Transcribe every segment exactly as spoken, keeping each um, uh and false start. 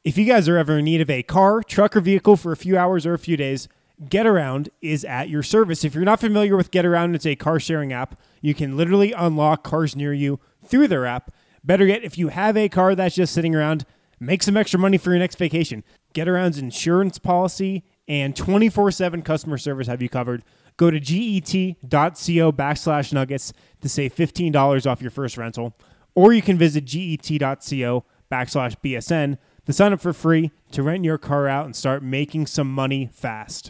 If you guys are ever in need of a car, truck, or vehicle for a few hours or a few days, GetAround is at your service. If you're not familiar with GetAround, it's a car sharing app. You can literally unlock cars near you through their app. Better yet, if you have a car that's just sitting around, make some extra money for your next vacation. GetAround's insurance policy and twenty-four seven customer service have you covered. Go to get.co backslash nuggets to save fifteen dollars off your first rental. Or you can visit get.co backslash BSN to sign up for free to rent your car out and start making some money fast.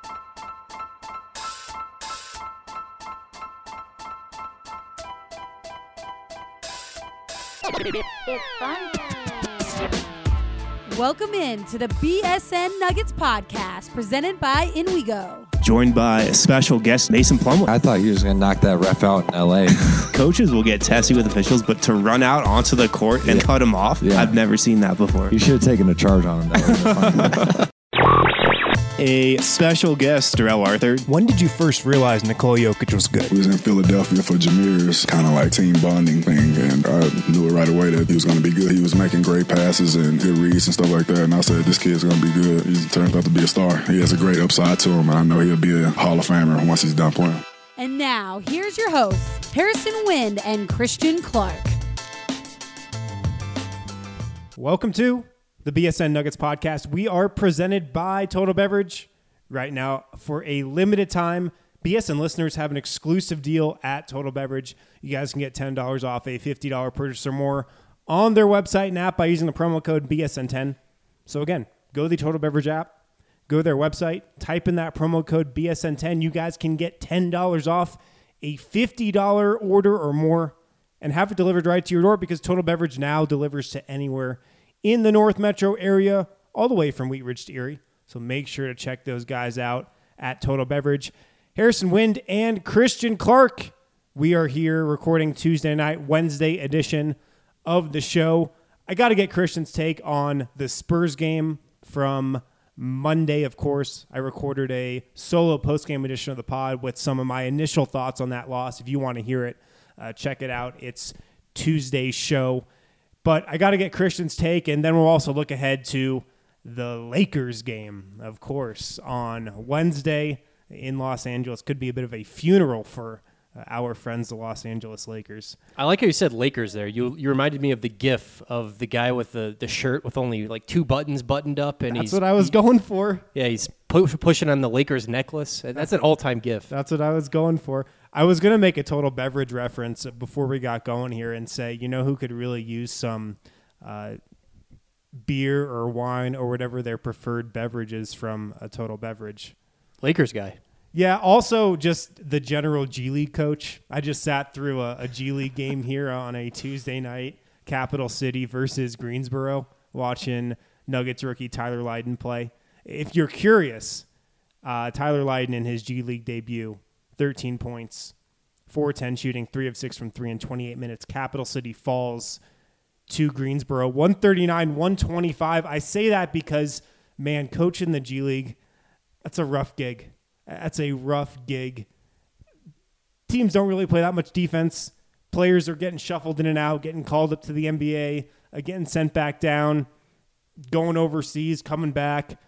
Welcome in to the B S N Nuggets podcast presented by InWeGo. Joined by a special guest, Mason Plumlee. I thought you was going to knock that ref out in L A. Coaches will get testy with officials, but to run out onto the court and yeah. cut them off, yeah. I've never seen that before. You should have taken a charge on him. That a special guest, Darrell Arthur. When did you first realize Nikola Jokic was good? We was in Philadelphia for Jameer's kind of like team bonding thing, and I knew it right away that he was going to be good. He was making great passes and good reads and stuff like that, and I said, this kid's going to be good. He turns out to be a star. He has a great upside to him, and I know he'll be a Hall of Famer once he's done playing. And now, here's your hosts, Harrison Wind and Christian Clark. Welcome to the B S N Nuggets podcast. We are presented by Total Beverage. Right now, for a limited time, B S N listeners have an exclusive deal at Total Beverage. You guys can get ten dollars off a fifty dollars purchase or more on their website and app by using the promo code B S N ten. So again, go to the Total Beverage app, go to their website, type in that promo code B S N ten. You guys can get ten dollars off a fifty dollars order or more and have it delivered right to your door because Total Beverage now delivers to anywhere in the North Metro area, all the way from Wheat Ridge to Erie. So make sure to check those guys out at Total Beverage. Harrison Wind and Christian Clark. We are here recording Tuesday night, Wednesday edition of the show. I got to get Christian's take on the Spurs game from Monday, of course. I recorded a solo post-game edition of the pod with some of my initial thoughts on that loss. If you want to hear it, uh, check it out. It's Tuesday's show. But I got to get Christian's take, and then we'll also look ahead to the Lakers game, of course, on Wednesday in Los Angeles. Could be a bit of a funeral for uh, our friends, the Los Angeles Lakers. I like how you said Lakers there. You you reminded me of the gif of the guy with the, the shirt with only like two buttons buttoned up. And That's he's, what I was he, going for. Yeah, he's pu- pushing on the Lakers necklace. That's an all-time gif. That's what I was going for. I was going to make a Total Beverage reference before we got going here and say, you know who could really use some uh, beer or wine or whatever their preferred beverage is from a Total Beverage? Lakers guy. Yeah, also just the general G League coach. I just sat through a, a G League game here on a Tuesday night, Capital City versus Greensboro, watching Nuggets rookie Tyler Lydon play. If you're curious, uh, Tyler Lydon in his G League debut, thirteen points, four ten shooting, three of six from three in twenty-eight minutes. Capital City falls to Greensboro, one thirty-nine one twenty-five. I say that because, man, coaching the G League, that's a rough gig. That's a rough gig. Teams don't really play that much defense. Players are getting shuffled in and out, getting called up to the N B A, uh, getting sent back down, going overseas, coming back.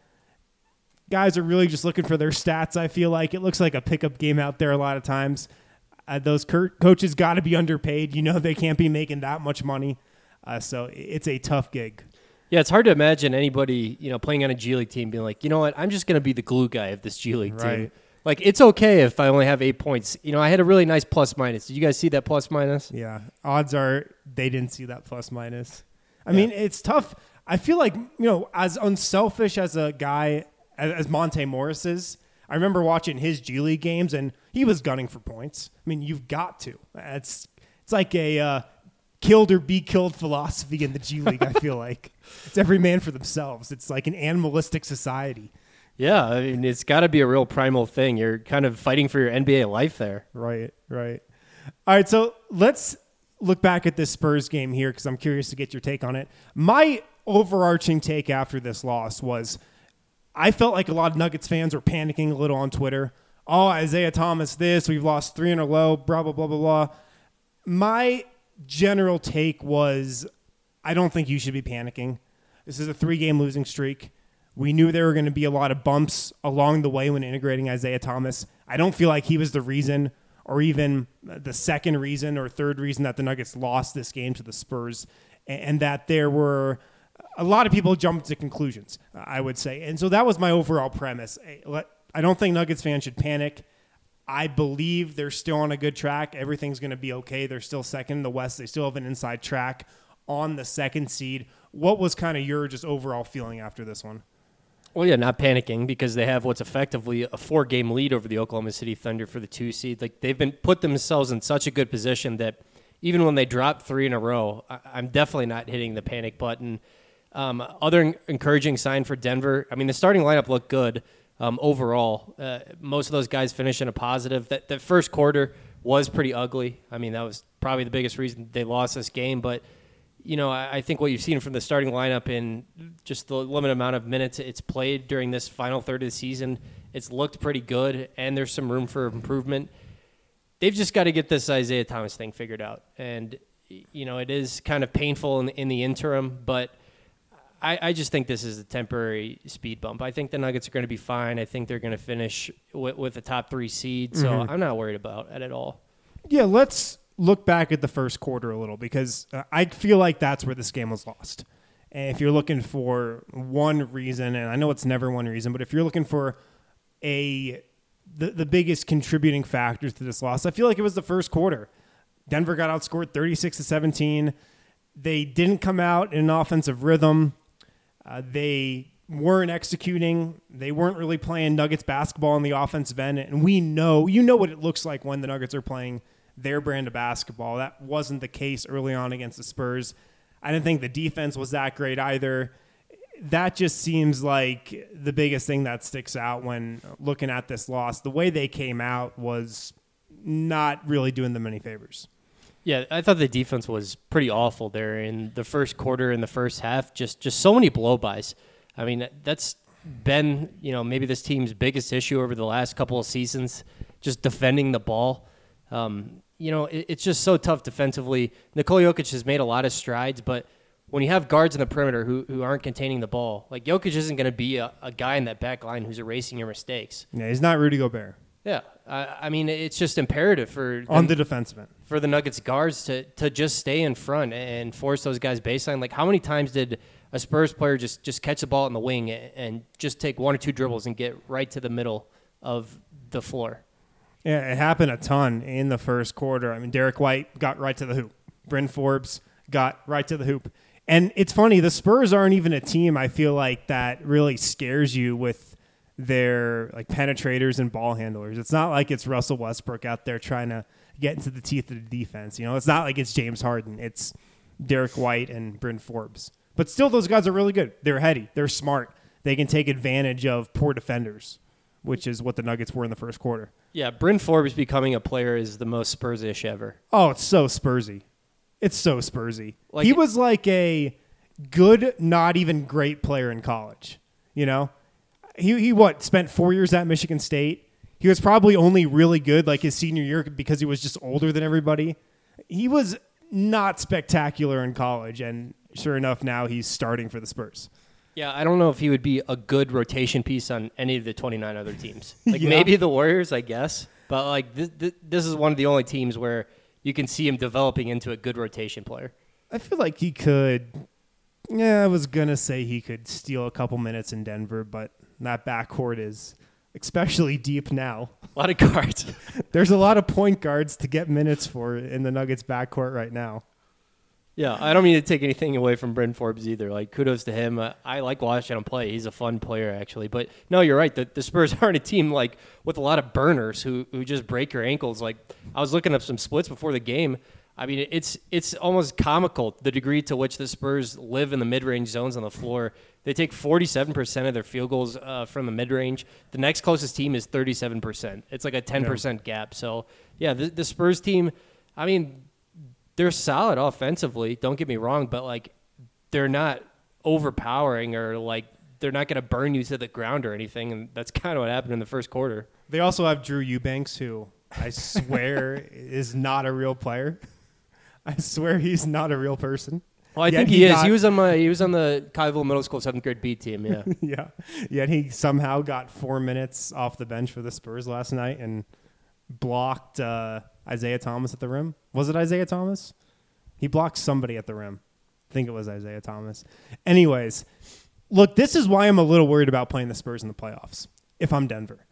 Guys are really just looking for their stats, I feel like. It looks like a pickup game out there a lot of times. Uh, those co- coaches got to be underpaid. You know they can't be making that much money. Uh, so it's a tough gig. Yeah, it's hard to imagine anybody, you know, playing on a G League team being like, you know what, I'm just going to be the glue guy of this G League right. team. Like, it's okay if I only have eight points. You know, I had a really nice plus minus. Did you guys see that plus minus? Yeah. Odds are they didn't see that plus minus. I yeah. mean, it's tough. I feel like, you know, as unselfish as a guy as, as Monte Morris is, I remember watching his G League games, and he was gunning for points. I mean, you've got to. It's, it's like a uh, killed or be killed philosophy in the G League, I feel like. It's every man for themselves. It's like an animalistic society. Yeah, I mean, it's got to be a real primal thing. You're kind of fighting for your N B A life there. Right, right. All right, so let's look back at this Spurs game here because I'm curious to get your take on it. My overarching take after this loss was I felt like a lot of Nuggets fans were panicking a little on Twitter. Oh, Isaiah Thomas this, we've lost three in a row, blah, blah, blah, blah, blah. My general take was I don't think you should be panicking. This is a three-game losing streak. We knew there were going to be a lot of bumps along the way when integrating Isaiah Thomas. I don't feel like he was the reason or even the second reason or third reason that the Nuggets lost this game to the Spurs, and that there were a lot of people jumped to conclusions, I would say. And so that was my overall premise. I don't think Nuggets fans should panic. I believe they're still on a good track. Everything's going to be okay. They're still second in the West. They still have an inside track on the second seed. What was kind of your just overall feeling after this one? Well, yeah, not panicking because they have what's effectively a four-game lead over the Oklahoma City Thunder for the two seed. Like they've been put themselves in such a good position that even when they drop three in a row, I, I'm definitely not hitting the panic button. Um, other encouraging sign for Denver. I mean, the starting lineup looked good um, overall. Uh, most of those guys finished in a positive. That that first quarter was pretty ugly. I mean, that was probably the biggest reason they lost this game, but. You know, I think what you've seen from the starting lineup in just the limited amount of minutes it's played during this final third of the season, it's looked pretty good, and there's some room for improvement. They've just got to get this Isaiah Thomas thing figured out. And, you know, it is kind of painful in, in the interim, but I, I just think this is a temporary speed bump. I think the Nuggets are going to be fine. I think they're going to finish with, with a top three seed, so mm-hmm. I'm not worried about it at all. Yeah, let's look back at the first quarter a little because uh, I feel like that's where this game was lost. And if you're looking for one reason, and I know it's never one reason, but if you're looking for a the, the biggest contributing factors to this loss, I feel like it was the first quarter. Denver got outscored thirty-six to seventeen. They didn't come out in an offensive rhythm. Uh, they weren't executing. They weren't really playing Nuggets basketball on the offensive end. And we know, you know what it looks like when the Nuggets are playing their brand of basketball. That wasn't the case early on against the Spurs. I didn't think the defense was that great either. That just seems like the biggest thing that sticks out when looking at this loss. The way they came out was not really doing them any favors. Yeah, I thought the defense was pretty awful there in the first quarter and the first half. Just just so many blow-bys. I mean, that's been, you know, maybe this team's biggest issue over the last couple of seasons, just defending the ball. Um, you know, it, it's just so tough defensively. Nikola Jokic has made a lot of strides, but when you have guards in the perimeter who, who aren't containing the ball, like Jokic isn't going to be a, a guy in that back line who's erasing your mistakes. Yeah, he's not Rudy Gobert. Yeah, I, I mean, it's just imperative for on them, the defensive end for the Nuggets guards to to just stay in front and force those guys baseline. Like, how many times did a Spurs player just, just catch the ball in the wing and just take one or two dribbles and get right to the middle of the floor? Yeah, it happened a ton in the first quarter. I mean, Derek White got right to the hoop. Bryn Forbes got right to the hoop. And it's funny, the Spurs aren't even a team, I feel like, that really scares you with their like penetrators and ball handlers. It's not like it's Russell Westbrook out there trying to get into the teeth of the defense. You know, it's not like it's James Harden. It's Derek White and Bryn Forbes. But still, those guys are really good. They're heady. They're smart. They can take advantage of poor defenders, which is what the Nuggets were in the first quarter. Yeah, Bryn Forbes becoming a player is the most Spurs-ish ever. Oh, it's so Spursy. It's so Spursy. Like, he was like a good, not even great player in college. You know? He, he what, spent four years at Michigan State. He was probably only really good like his senior year because he was just older than everybody. He was not spectacular in college, and sure enough, now he's starting for the Spurs. Yeah, I don't know if he would be a good rotation piece on any of the twenty-nine other teams. Like, yeah. Maybe the Warriors, I guess. But, like, this, this, this is one of the only teams where you can see him developing into a good rotation player. I feel like he could – yeah, I was going to say he could steal a couple minutes in Denver, but that backcourt is especially deep now. A lot of guards. There's a lot of point guards to get minutes for in the Nuggets backcourt right now. Yeah, I don't mean to take anything away from Bryn Forbes either. Like, kudos to him. Uh, I like watching him play. He's a fun player, actually. But, no, you're right. The, the Spurs aren't a team, like, with a lot of burners who, who just break your ankles. Like, I was looking up some splits before the game. I mean, it's it's almost comical, the degree to which the Spurs live in the mid-range zones on the floor. They take forty-seven percent of their field goals uh, from the mid-range. The next closest team is thirty-seven percent. It's like a ten percent yeah. gap. So, yeah, the, the Spurs team, I mean, they're solid offensively, don't get me wrong, but, like, they're not overpowering or, like, they're not going to burn you to the ground or anything, and that's kind of what happened in the first quarter. They also have Drew Eubanks, who I swear is not a real player. I swear he's not a real person. Well, I Yet think he he, is. got- He was on my. He was on the Colleyville Middle School seventh grade B team. Yeah. yeah. Yet he somehow got four minutes off the bench for the Spurs last night and blocked uh, Isaiah Thomas at the rim. Was it Isaiah Thomas? He blocked somebody at the rim. I think it was Isaiah Thomas. Anyways, look, this is why I'm a little worried about playing the Spurs in the playoffs if I'm Denver.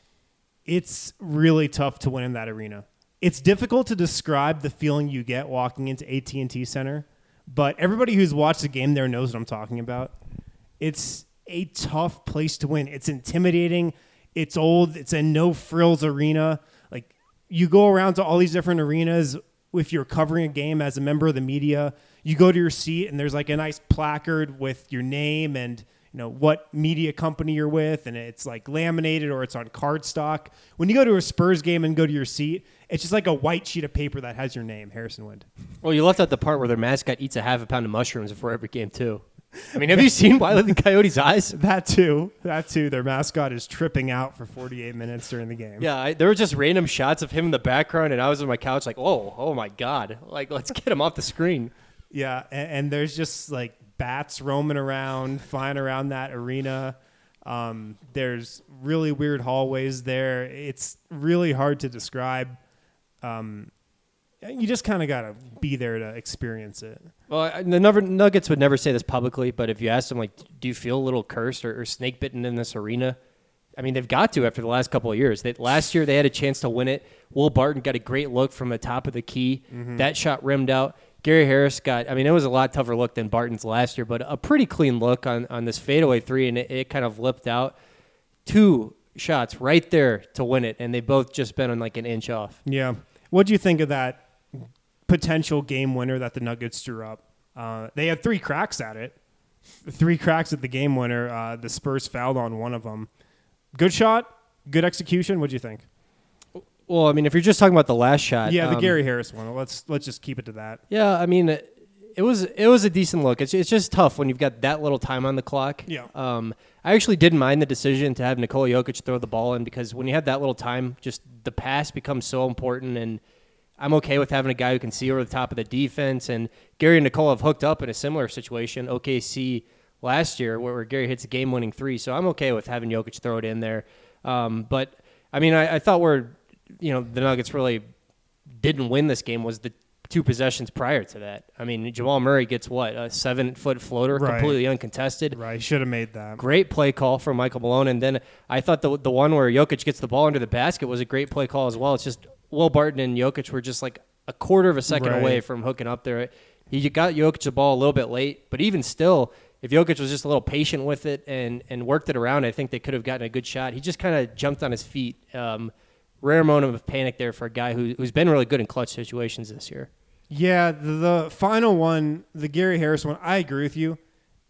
It's really tough to win in that arena. It's difficult to describe the feeling you get walking into A T and T Center, but everybody who's watched the game there knows what I'm talking about. It's a tough place to win. It's intimidating. It's old. It's a no-frills arena. Like, you go around to all these different arenas if you're covering a game as a member of the media. You go to your seat, and there's like a nice placard with your name and you know what media company you're with, and it's like laminated or it's on cardstock. When you go to a Spurs game and go to your seat, it's just like a white sheet of paper that has your name, Harrison Wind. Well, you left out the part where their mascot eats a half a pound of mushrooms before every game too. I mean, have you seen Wile E. the Coyote's eyes? That too. That too. Their mascot is tripping out for forty-eight minutes during the game. Yeah, I, there were just random shots of him in the background, and I was on my couch like, "Oh, oh my God! Like, let's get him off the screen." Yeah, and, and there's just like bats roaming around, flying around that arena. Um, there's really weird hallways there. It's really hard to describe. Um, you just kind of got to be there to experience it. Well, I- the Nugget- Nuggets would never say this publicly, but if you asked them, like, do you feel a little cursed or, or snake bitten in this arena? I mean, they've got to after the last couple of years. They, last year, they had a chance to win it. Will Barton got a great look from the top of the key. Mm-hmm. That shot rimmed out. Gary Harris got, I mean, it was a lot tougher look than Barton's last year, but a pretty clean look on, on this fadeaway three, and it, it kind of lipped out. Two shots right there to win it, and they both just been on like an inch off. Yeah. What do you think of that potential game winner that the Nuggets drew up? Uh, they had three cracks at it. Three cracks at the game winner. Uh, the Spurs fouled on one of them. Good shot, good execution. What do you think? Well, I mean, if you're just talking about the last shot. Yeah, the um, Gary Harris one. Let's let's just keep it to that. Yeah, I mean, it, it was it was a decent look. It's it's just tough when you've got that little time on the clock. Yeah. Um, I actually didn't mind the decision to have Nikola Jokic throw the ball in because when you have that little time, just the pass becomes so important, and I'm okay with having a guy who can see over the top of the defense. And Gary and Nikola have hooked up in a similar situation, O K C last year, where, where Gary hits a game-winning three. So I'm okay with having Jokic throw it in there. Um, but I mean, I, I thought where you know the Nuggets really didn't win this game was the two possessions prior to that. I mean, Jamal Murray gets what, a seven-foot floater, Right. completely uncontested. Right, should have made that. Great play call from Michael Malone. And then I thought the the one where Jokic gets the ball under the basket was a great play call as well. It's just Will Barton and Jokic were just like a quarter of a second Right. away from hooking up there. He got Jokic the ball a little bit late, but even still, if Jokic was just a little patient with it and, and worked it around, I think they could have gotten a good shot. He just kind of jumped on his feet. Um, rare moment of panic there for a guy who, who's been really good in clutch situations this year. Yeah, the, the final one, the Gary Harris one, I agree with you.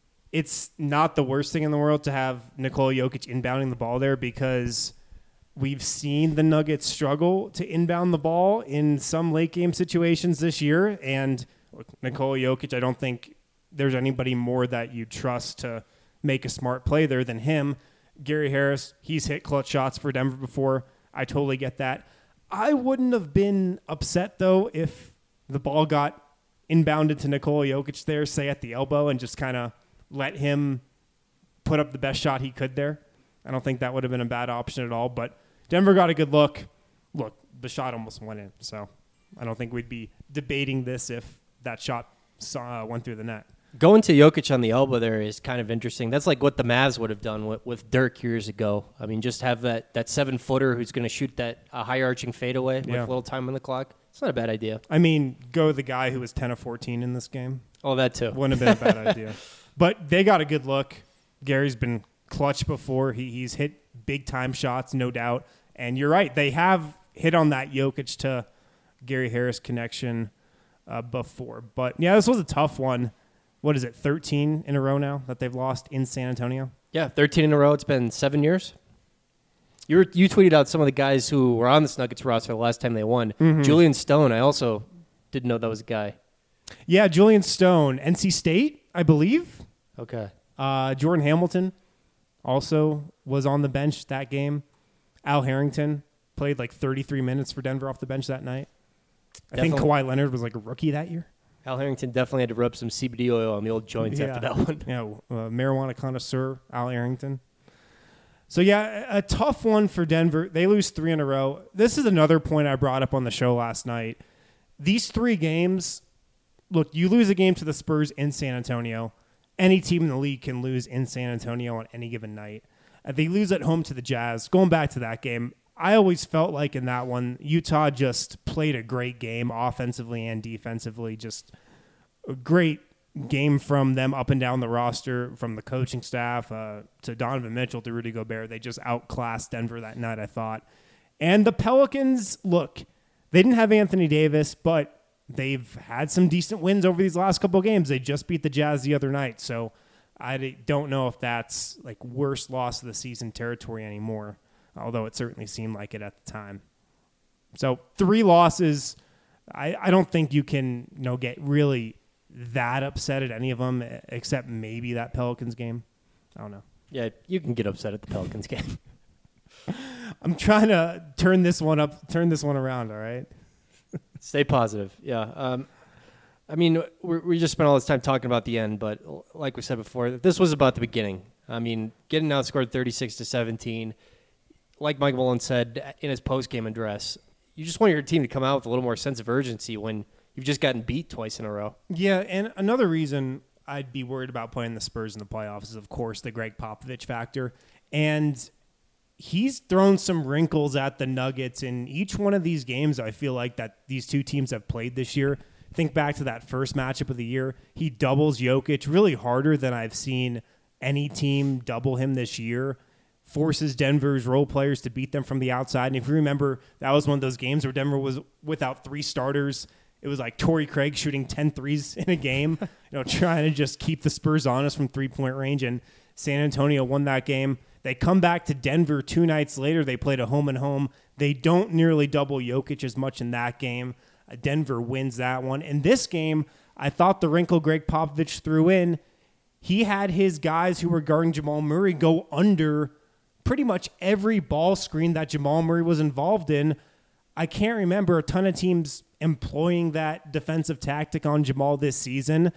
It's not the worst thing in the world to have Nikola Jokic inbounding the ball there because we've seen the Nuggets struggle to inbound the ball in some late game situations this year. And look, Nikola Jokic, I don't think there's anybody more that you trust to make a smart play there than him. Gary Harris, he's hit clutch shots for Denver before. I totally get that. I wouldn't have been upset, though, if the ball got inbounded to Nikola Jokic there, say at the elbow, and just kind of let him put up the best shot he could there. I don't think that would have been a bad option at all, but Denver got a good look. Look, the shot almost went in, so I don't think we'd be debating this if that shot saw, uh, went through the net. Going to Jokic on the elbow there is kind of interesting. That's like what the Mavs would have done with, with Dirk years ago. I mean, just have that, that seven-footer who's going to shoot that uh, high-arching fadeaway Yeah. with little time on the clock. It's not a bad idea. I mean, go the guy who was ten of fourteen in this game. Oh, that too. Wouldn't have been a bad idea. But they got a good look. Gary's been clutch before. He, he's hit big-time shots, no doubt. And you're right. They have hit on that Jokic to Gary Harris connection uh, before. But, yeah, this was a tough one. What is it, thirteen in a row now that they've lost in San Antonio? Yeah, thirteen in a row. It's been seven years. You were, you tweeted out some of the guys who were on this Nuggets roster the last time they won. Mm-hmm. Julian Stone, I also didn't know that was a guy. Yeah, Julian Stone, N C State, I believe. Okay. Uh, Jordan Hamilton also was on the bench that game. Al Harrington played like thirty-three minutes for Denver off the bench that night. I think Definitely. Kawhi Leonard was like a rookie that year. Al Harrington definitely had to rub some C B D oil on the old joints yeah. after that one. Yeah, uh, marijuana connoisseur, Al Harrington. So, yeah, a, a tough one for Denver. They lose three in a row. This is another point I brought up on the show last night. These three games, look, you lose a game to the Spurs in San Antonio. Any team in the league can lose in San Antonio on any given night. Uh, they lose at home to the Jazz. Going back to that game, I always felt like in that one, Utah just played a great game offensively and defensively. Just a great game from them up and down the roster, from the coaching staff uh, to Donovan Mitchell to Rudy Gobert. They just outclassed Denver that night, I thought. And the Pelicans, look, they didn't have Anthony Davis, but they've had some decent wins over these last couple of games. They just beat the Jazz the other night. So I don't know if that's like worst loss of the season territory anymore, although it certainly seemed like it at the time. So three losses. I, I don't think you can you know get really that upset at any of them except maybe that Pelicans game. I don't know. Yeah, you can get upset at the Pelicans game. I'm trying to turn this one up, turn this one around, all right? Stay positive. Yeah. Um, I mean, we we just spent all this time talking about the end, but like we said before, this was about the beginning. I mean, getting outscored thirty-six to seventeen, like Mike Malone said in his post-game address, you just want your team to come out with a little more sense of urgency when you've just gotten beat twice in a row. Yeah, and another reason I'd be worried about playing the Spurs in the playoffs is, of course, the Greg Popovich factor. And he's thrown some wrinkles at the Nuggets in each one of these games. I feel like that these two teams have played this year. Think back to that first matchup of the year. He doubles Jokic really harder than I've seen any team double him this year. Forces Denver's role players to beat them from the outside. And if you remember, that was one of those games where Denver was without three starters. It was like Torrey Craig shooting ten threes in a game, you know, trying to just keep the Spurs honest from three-point range. And San Antonio won that game. They come back to Denver two nights later. They played a home and home. They don't nearly double Jokic as much in that game. Uh, Denver wins that one. In this game, I thought the wrinkle Greg Popovich threw in, he had his guys who were guarding Jamal Murray go under pretty much every ball screen that Jamal Murray was involved in. I can't remember a ton of teams employing that defensive tactic on Jamal this season,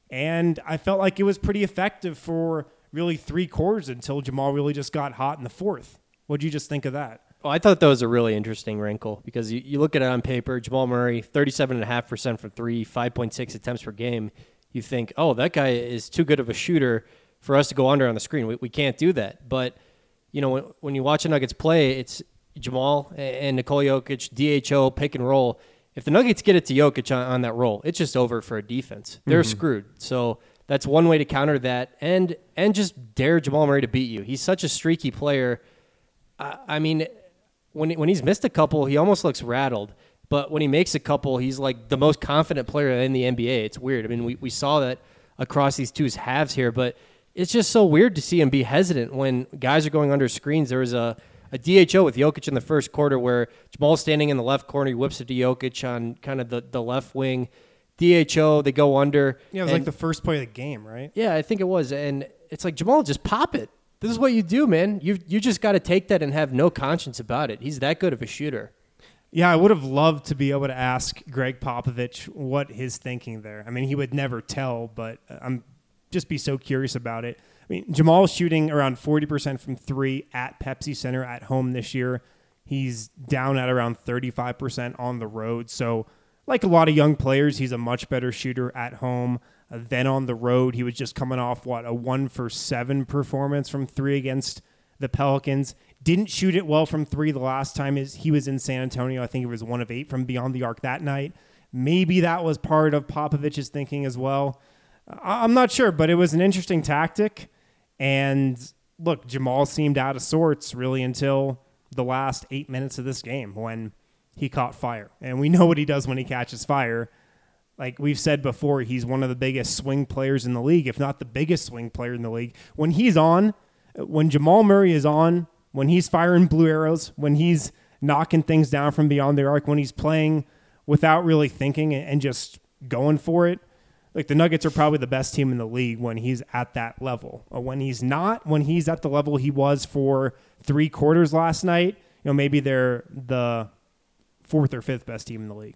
and I felt like it was pretty effective for really three quarters until Jamal really just got hot in the fourth. What'd you just think of that? Well, I thought that was a really interesting wrinkle because you, you look at it on paper, Jamal Murray, thirty-seven point five percent from three, five point six attempts per game. You think, oh, that guy is too good of a shooter for us to go under on the screen. We, we can't do that. But, you know, when, when you watch the Nuggets play, it's Jamal and Nikola Jokic, D H O, pick and roll. If the Nuggets get it to Jokic on, on that roll, it's just over for a defense. They're mm-hmm. screwed. So that's one way to counter that and and just dare Jamal Murray to beat you. He's such a streaky player. I, I mean, when when he's missed a couple, he almost looks rattled. But when he makes a couple, he's like the most confident player in the N B A. It's weird. I mean, we, we saw that across these two halves here, but it's just so weird to see him be hesitant when guys are going under screens. There was a, a D H O with Jokic in the first quarter where Jamal's standing in the left corner. He whips it to Jokic on kind of the, the left wing. D H O, they go under. Yeah, it was and, like the first play of the game, right? Yeah, I think it was. And it's like, Jamal, just pop it. This is what you do, man. You you just got to take that and have no conscience about it. He's that good of a shooter. Yeah, I would have loved to be able to ask Greg Popovich what his thinking there. I mean, he would never tell, but I'm just be so curious about it. I mean, Jamal's shooting around forty percent from three at Pepsi Center at home this year. He's down at around thirty-five percent on the road. So like a lot of young players, he's a much better shooter at home uh, than on the road. He was just coming off, what, a one for seven performance from three against the Pelicans. Didn't shoot it well from three the last time he was in San Antonio. I think it was one of eight from beyond the arc that night. Maybe that was part of Popovich's thinking as well. I'm not sure, but it was an interesting tactic. And look, Jamal seemed out of sorts really until the last eight minutes of this game when he caught fire. And we know what he does when he catches fire. Like we've said before, he's one of the biggest swing players in the league, if not the biggest swing player in the league. When he's on, when Jamal Murray is on, when he's firing blue arrows, when he's knocking things down from beyond the arc, when he's playing without really thinking and just going for it, like the Nuggets are probably the best team in the league when he's at that level. Or when he's not, when he's at the level he was for three quarters last night, you know, maybe they're the fourth or fifth best team in the league.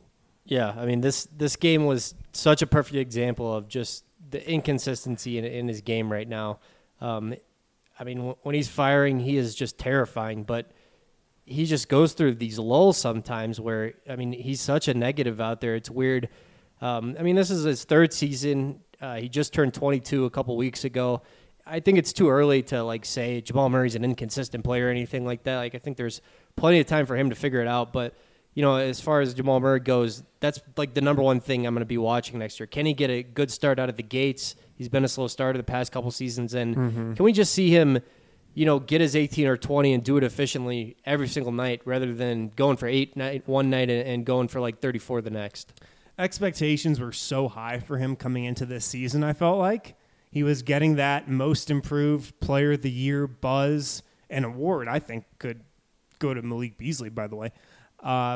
Yeah, I mean, this this game was such a perfect example of just the inconsistency in, in his game right now. Um, I mean, w- when he's firing, he is just terrifying, but he just goes through these lulls sometimes where, I mean, he's such a negative out there. It's weird. Um, I mean, this is his third season. Uh, he just turned twenty-two a couple weeks ago. I think it's too early to, like, say Jamal Murray's an inconsistent player or anything like that. Like, I think there's plenty of time for him to figure it out, but you know, as far as Jamal Murray goes, that's like the number one thing I'm going to be watching next year. Can he get a good start out of the gates? He's been a slow starter the past couple seasons, and mm-hmm. can we just see him, you know, get his eighteen or twenty and do it efficiently every single night rather than going for eight night one night and going for like thirty-four the next? Expectations were so high for him coming into this season, I felt like. He was getting that most improved player of the year buzz and award, I think could go to Malik Beasley, by the way. Uh,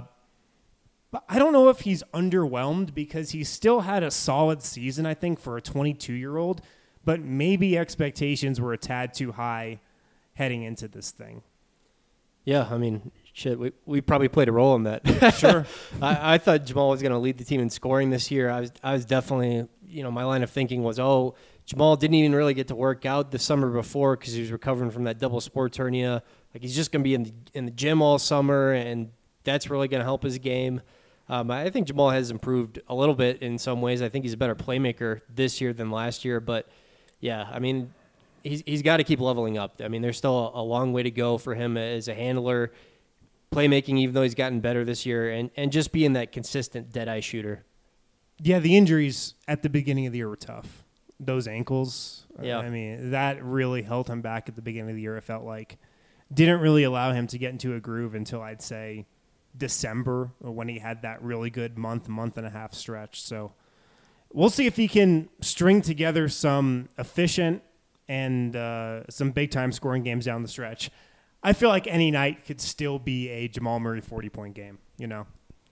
but I don't know if he's underwhelmed because he still had a solid season, I think, for a twenty-two-year-old, but maybe expectations were a tad too high heading into this thing. Yeah, I mean, shit, we we probably played a role in that. Sure. I, I thought Jamal was going to lead the team in scoring this year. I was I was definitely, you know, my line of thinking was, oh, Jamal didn't even really get to work out the summer before because he was recovering from that double sports hernia. Like, he's just going to be in the, in the gym all summer, and that's really going to help his game. Um, I think Jamal has improved a little bit in some ways. I think he's a better playmaker this year than last year. But, yeah, I mean, he's he's got to keep leveling up. I mean, there's still a, a long way to go for him as a handler, playmaking, even though he's gotten better this year, and, and just being that consistent dead-eye shooter. Yeah, the injuries at the beginning of the year were tough. Those ankles, yeah. I mean, that really held him back at the beginning of the year, it felt like. Didn't really allow him to get into a groove until I'd say December when he had that really good month, month and a half stretch. So we'll see if he can string together some efficient and uh, some big-time scoring games down the stretch. I feel like any night could still be a Jamal Murray forty-point game, you know.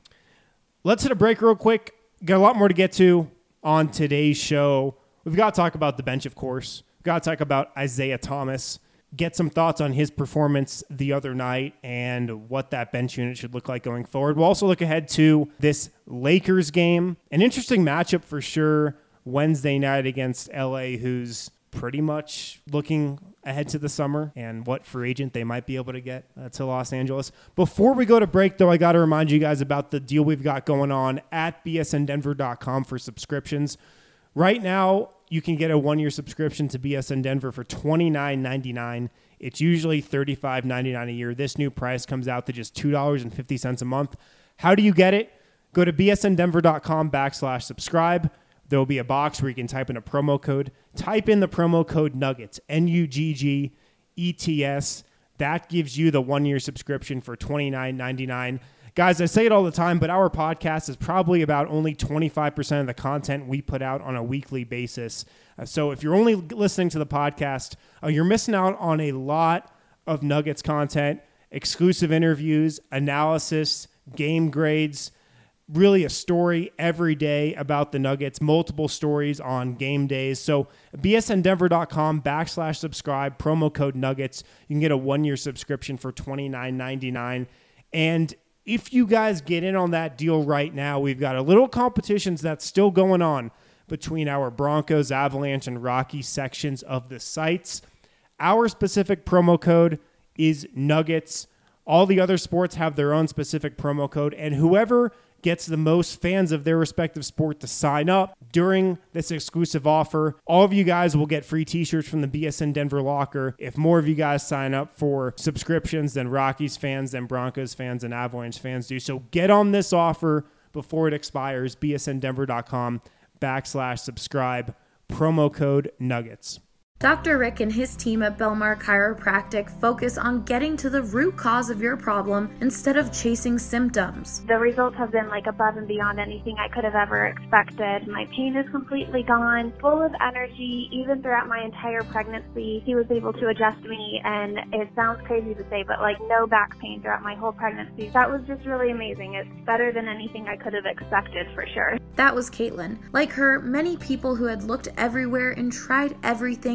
Let's hit a break real quick. Got a lot more to get to on today's show. We've got to talk about the bench, of course. We've got to talk about Isaiah Thomas. Get some thoughts on his performance the other night and what that bench unit should look like going forward. We'll also look ahead to this Lakers game. An interesting matchup for sure Wednesday night against L A, who's pretty much looking ahead to the summer and what free agent they might be able to get uh, to Los Angeles. Before we go to break, though, I got to remind you guys about the deal we've got going on at B S N Denver dot com for subscriptions. Right now, you can get a one-year subscription to B S N Denver for twenty-nine ninety-nine. It's usually thirty-five ninety-nine a year. This new price comes out to just two dollars and fifty cents a month. How do you get it? Go to B S N Denver dot com backslash subscribe. There will be a box where you can type in a promo code. Type in the promo code Nuggets, N U G G E T S. That gives you the one-year subscription for twenty-nine ninety-nine. Guys, I say it all the time, but our podcast is probably about only twenty-five percent of the content we put out on a weekly basis. Uh, so if you're only listening to the podcast, uh, you're missing out on a lot of Nuggets content, exclusive interviews, analysis, game grades, really a story every day about the Nuggets, multiple stories on game days. So B S N Denver dot com backslash subscribe, promo code Nuggets. You can get a one-year subscription for twenty-nine ninety-nine. And if you guys get in on that deal right now, we've got a little competitions that's still going on between our Broncos, Avalanche, and Rocky sections of the sites. Our specific promo code is Nuggets. All the other sports have their own specific promo code, and whoever gets the most fans of their respective sport to sign up during this exclusive offer, all of you guys will get free t-shirts from the B S N Denver locker. If more of you guys sign up for subscriptions than Rockies fans, than Broncos fans, and Avalanche fans do. So get on this offer before it expires. B S N Denver dot com backslash subscribe, promo code Nuggets. Doctor Rick and his team at Belmar Chiropractic focus on getting to the root cause of your problem instead of chasing symptoms. The results have been like above and beyond anything I could have ever expected. My pain is completely gone, full of energy, even throughout my entire pregnancy. He was able to adjust me, and it sounds crazy to say, but like no back pain throughout my whole pregnancy. That was just really amazing. It's better than anything I could have expected for sure. That was Caitlin. Like her, many people who had looked everywhere and tried everything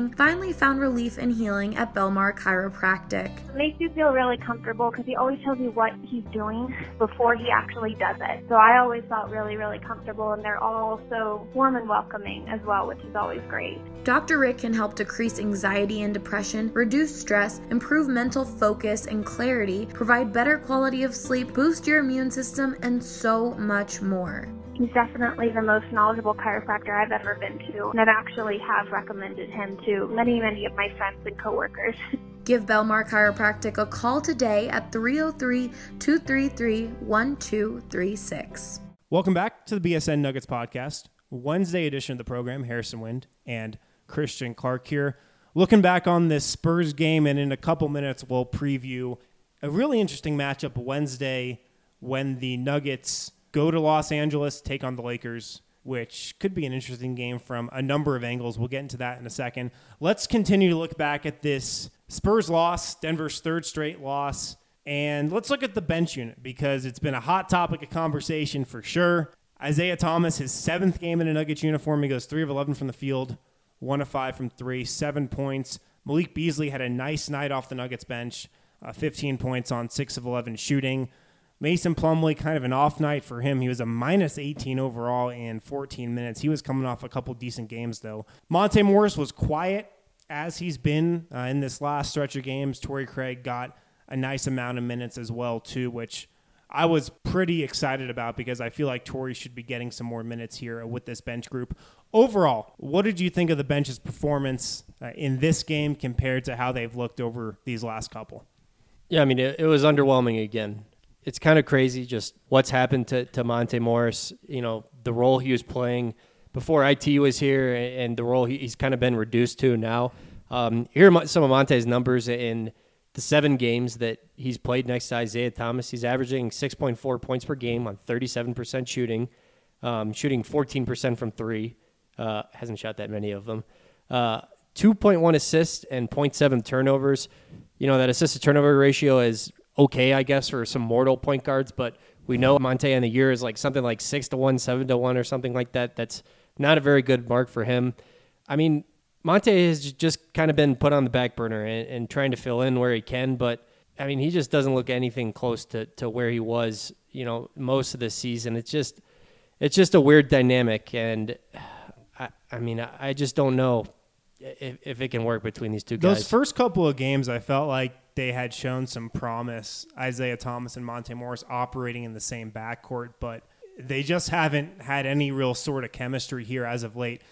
syndrome, finally found relief and healing at Belmar Chiropractic. It makes you feel really comfortable because he always tells you what he's doing before he actually does it. So I always felt really, really comfortable, and they're all so warm and welcoming as well, which is always great. Doctor Rick can help decrease anxiety and depression, reduce stress, improve mental focus and clarity, provide better quality of sleep, boost your immune system, and so much more. He's definitely the most knowledgeable chiropractor I've ever been to, and I've actually have recommended him to many, many of my friends and coworkers. Give Belmar Chiropractic a call today at three oh three, two three three, one two three six. Welcome back to the B S N Nuggets podcast, Wednesday edition of the program. Harrison Wind and Christian Clark here. Looking back on this Spurs game, and in a couple minutes we'll preview a really interesting matchup Wednesday when the Nuggets go to Los Angeles, take on the Lakers, which could be an interesting game from a number of angles. We'll get into that in a second. Let's continue to look back at this Spurs loss, Denver's third straight loss, and let's look at the bench unit because it's been a hot topic of conversation for sure. Isaiah Thomas, his seventh game in a Nuggets uniform, he goes three of eleven from the field, one of five from three, seven points. Malik Beasley had a nice night off the Nuggets bench, uh, fifteen points on six of eleven shooting. Mason Plumlee, kind of an off night for him. He was a minus eighteen overall in fourteen minutes. He was coming off a couple decent games, though. Monte Morris was quiet, as he's been uh, in this last stretch of games. Torrey Craig got a nice amount of minutes as well, too, which I was pretty excited about because I feel like Torrey should be getting some more minutes here with this bench group. Overall, what did you think of the bench's performance uh, in this game compared to how they've looked over these last couple? Yeah, I mean, it, it was underwhelming again. It's kind of crazy just what's happened to, to Monte Morris, you know, the role he was playing before I T was here and the role he, he's kind of been reduced to now. Um, here are some of Monte's numbers in the seven games that he's played next to Isaiah Thomas. He's averaging six point four points per game on thirty-seven percent shooting, um, shooting fourteen percent from three. Uh, hasn't shot that many of them. Uh, two point one assists and zero point seven turnovers. You know, that assist-to-turnover ratio is okay, I guess, for some mortal point guards, but we know Monte in the year is like something like six to one, seven to one, or something like that. That's not a very good mark for him. I mean, Monte has just kind of been put on the back burner and, and trying to fill in where he can, but I mean, he just doesn't look anything close to, to where he was, you know, most of the season. It's just, it's just a weird dynamic, and I, I mean, I, I just don't know if, if it can work between these two guys. Those first couple of games, I felt like they had shown some promise, Isaiah Thomas and Monte Morris operating in the same backcourt, but they just haven't had any real sort of chemistry here as of late.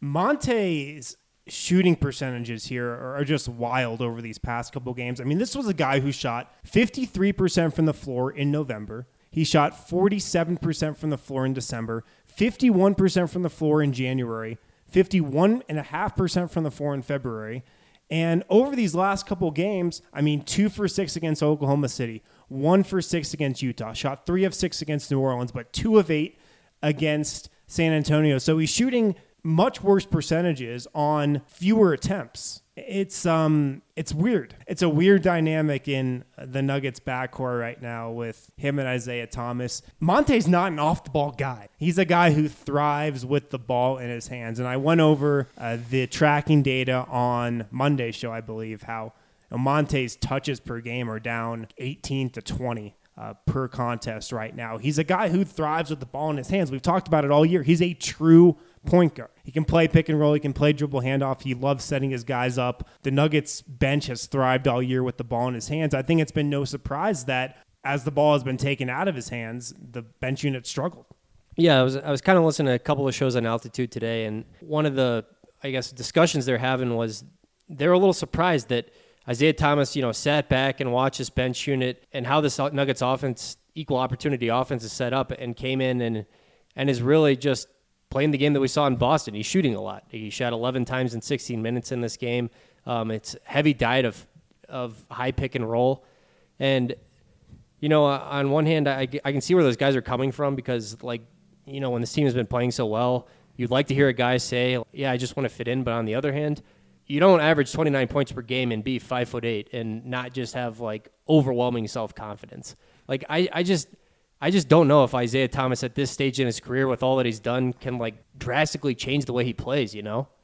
Monte's shooting percentages here are just wild over these past couple games. I mean, this was a guy who shot fifty-three percent from the floor in November. He shot forty-seven percent from the floor in December, fifty-one percent from the floor in January, fifty-one point five percent from the floor in February. And over these last couple games, I mean, two for six against Oklahoma City, one for six against Utah, shot three of six against New Orleans, but two of eight against San Antonio. So he's shooting much worse percentages on fewer attempts. It's um, it's weird. It's a weird dynamic in the Nuggets backcourt right now with him and Isaiah Thomas. Monte's not an off-the-ball guy. He's a guy who thrives with the ball in his hands. And I went over uh, the tracking data on Monday's show, I believe, how you know, Monte's touches per game are down eighteen to twenty. Uh, per contest right now. He's a guy who thrives with the ball in his hands. We've talked about it all year. He's a true point guard. He can play pick and roll. He can play dribble handoff. He loves setting his guys up. The Nuggets bench has thrived all year with the ball in his hands. I think it's been no surprise that as the ball has been taken out of his hands, the bench unit struggled. Yeah, I was I was kind of listening to a couple of shows on Altitude today, and one of the, I guess, discussions they're having was they're a little surprised that Isaiah Thomas, you know, sat back and watched this bench unit and how this Nuggets offense, equal opportunity offense, is set up, and came in and and is really just playing the game that we saw in Boston. He's shooting a lot. He shot eleven times in sixteen minutes in this game. Um, it's heavy diet of of high pick and roll, and you know, on one hand, I, I can see where those guys are coming from because, like, you know, when this team has been playing so well, you'd like to hear a guy say, "Yeah, I just want to fit in," but on the other hand, you don't average twenty-nine points per game and be five foot eight and not just have like overwhelming self-confidence. Like I, I just, I just don't know if Isaiah Thomas at this stage in his career with all that he's done can like drastically change the way he plays, you know?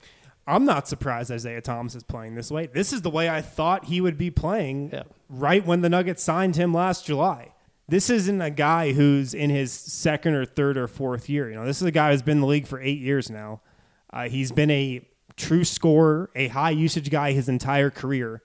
I'm not surprised Isaiah Thomas is playing this way. This is the way I thought he would be playing yeah. right when the Nuggets signed him last July. This isn't a guy who's in his second or third or fourth year. You know, this is a guy who's been in the league for eight years now. Uh, he's been a true scorer, a high usage guy his entire career.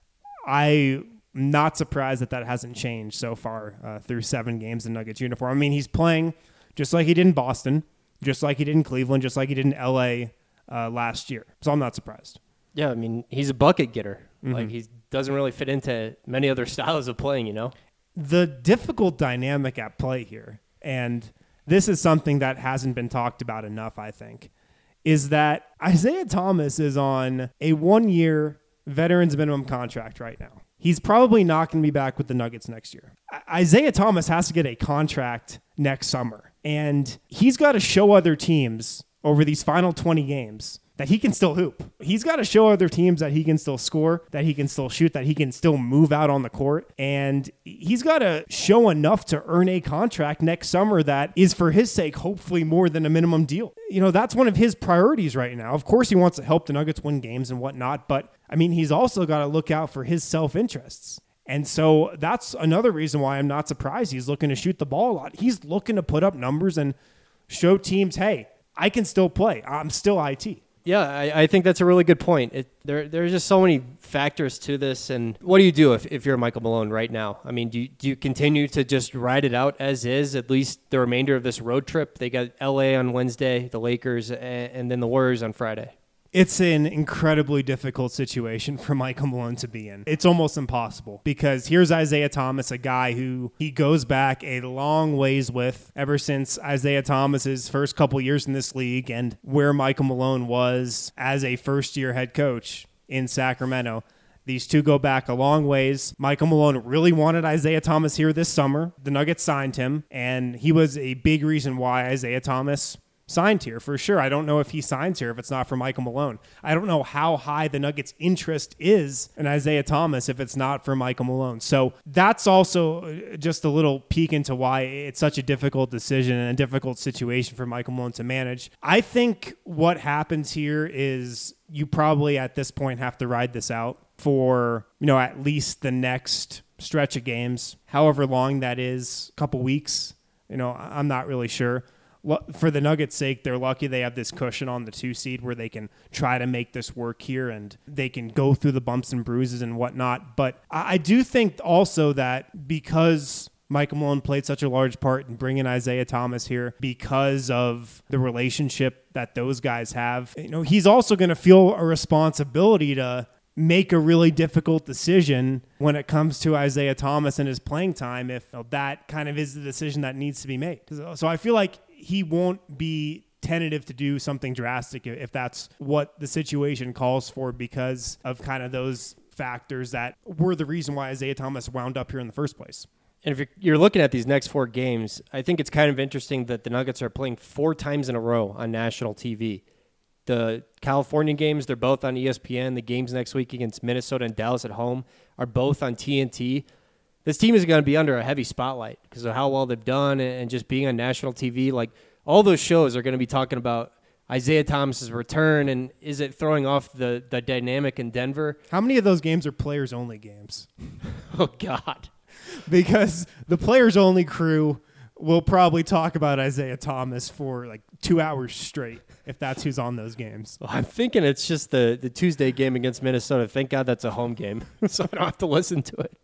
I'm not surprised that that hasn't changed so far uh, through seven games in Nuggets uniform. I mean, he's playing just like he did in Boston, just like he did in Cleveland, just like he did in L A uh, last year. So I'm not surprised. Yeah, I mean, he's a bucket getter. Mm-hmm. Like, he doesn't really fit into many other styles of playing, you know? The difficult dynamic at play here, and this is something that hasn't been talked about enough, I think, is that Isaiah Thomas is on a one-year veterans minimum contract right now. He's probably not going to be back with the Nuggets next year. I- Isaiah Thomas has to get a contract next summer, and he's got to show other teams over these final twenty games that he can still hoop. He's got to show other teams that he can still score, that he can still shoot, that he can still move out on the court. And he's got to show enough to earn a contract next summer that is, for his sake, hopefully more than a minimum deal. You know, that's one of his priorities right now. Of course, he wants to help the Nuggets win games and whatnot, but I mean, he's also got to look out for his self-interests. And so that's another reason why I'm not surprised he's looking to shoot the ball a lot. He's looking to put up numbers and show teams, hey, I can still play. I'm still I T. Yeah, I, I think that's a really good point. It, there, there's just so many factors to this. And what do you do if, if you're Michael Malone right now? I mean, do you, do you continue to just ride it out as is, at least the remainder of this road trip? They got L A on Wednesday, the Lakers, and, and then the Warriors on Friday. It's an incredibly difficult situation for Michael Malone to be in. It's almost impossible because here's Isaiah Thomas, a guy who he goes back a long ways with ever since Isaiah Thomas's first couple years in this league and where Michael Malone was as a first-year head coach in Sacramento. These two go back a long ways. Michael Malone really wanted Isaiah Thomas here this summer. The Nuggets signed him, and he was a big reason why Isaiah Thomas signed here for sure. I don't know if he signs here if it's not for Michael Malone. I don't know how high the Nuggets' interest is in Isaiah Thomas if it's not for Michael Malone. So that's also just a little peek into why it's such a difficult decision and a difficult situation for Michael Malone to manage. I think what happens here is you probably at this point have to ride this out for, you know, at least the next stretch of games, however long that is, a couple weeks. You know, I'm not really sure. For the Nuggets' sake, they're lucky they have this cushion on the two seed where they can try to make this work here and they can go through the bumps and bruises and whatnot. But I do think also that because Michael Malone played such a large part in bringing Isaiah Thomas here, because of the relationship that those guys have, you know, he's also going to feel a responsibility to make a really difficult decision when it comes to Isaiah Thomas and his playing time if you know, that kind of is the decision that needs to be made. So I feel like he won't be tentative to do something drastic if that's what the situation calls for because of kind of those factors that were the reason why Isaiah Thomas wound up here in the first place. And if you're, you're looking at these next four games, I think it's kind of interesting that the Nuggets are playing four times in a row on national T V. The California games, they're both on E S P N. The games next week against Minnesota and Dallas at home are both on T N T. This team is going to be under a heavy spotlight because of how well they've done and just being on national T V. Like, all those shows are going to be talking about Isaiah Thomas's return and is it throwing off the, the dynamic in Denver? How many of those games are players-only games? Oh, God. Because the players-only crew will probably talk about Isaiah Thomas for like two hours straight if that's who's on those games. Well, I'm thinking it's just the, the Tuesday game against Minnesota. Thank God that's a home game, so I don't have to listen to it.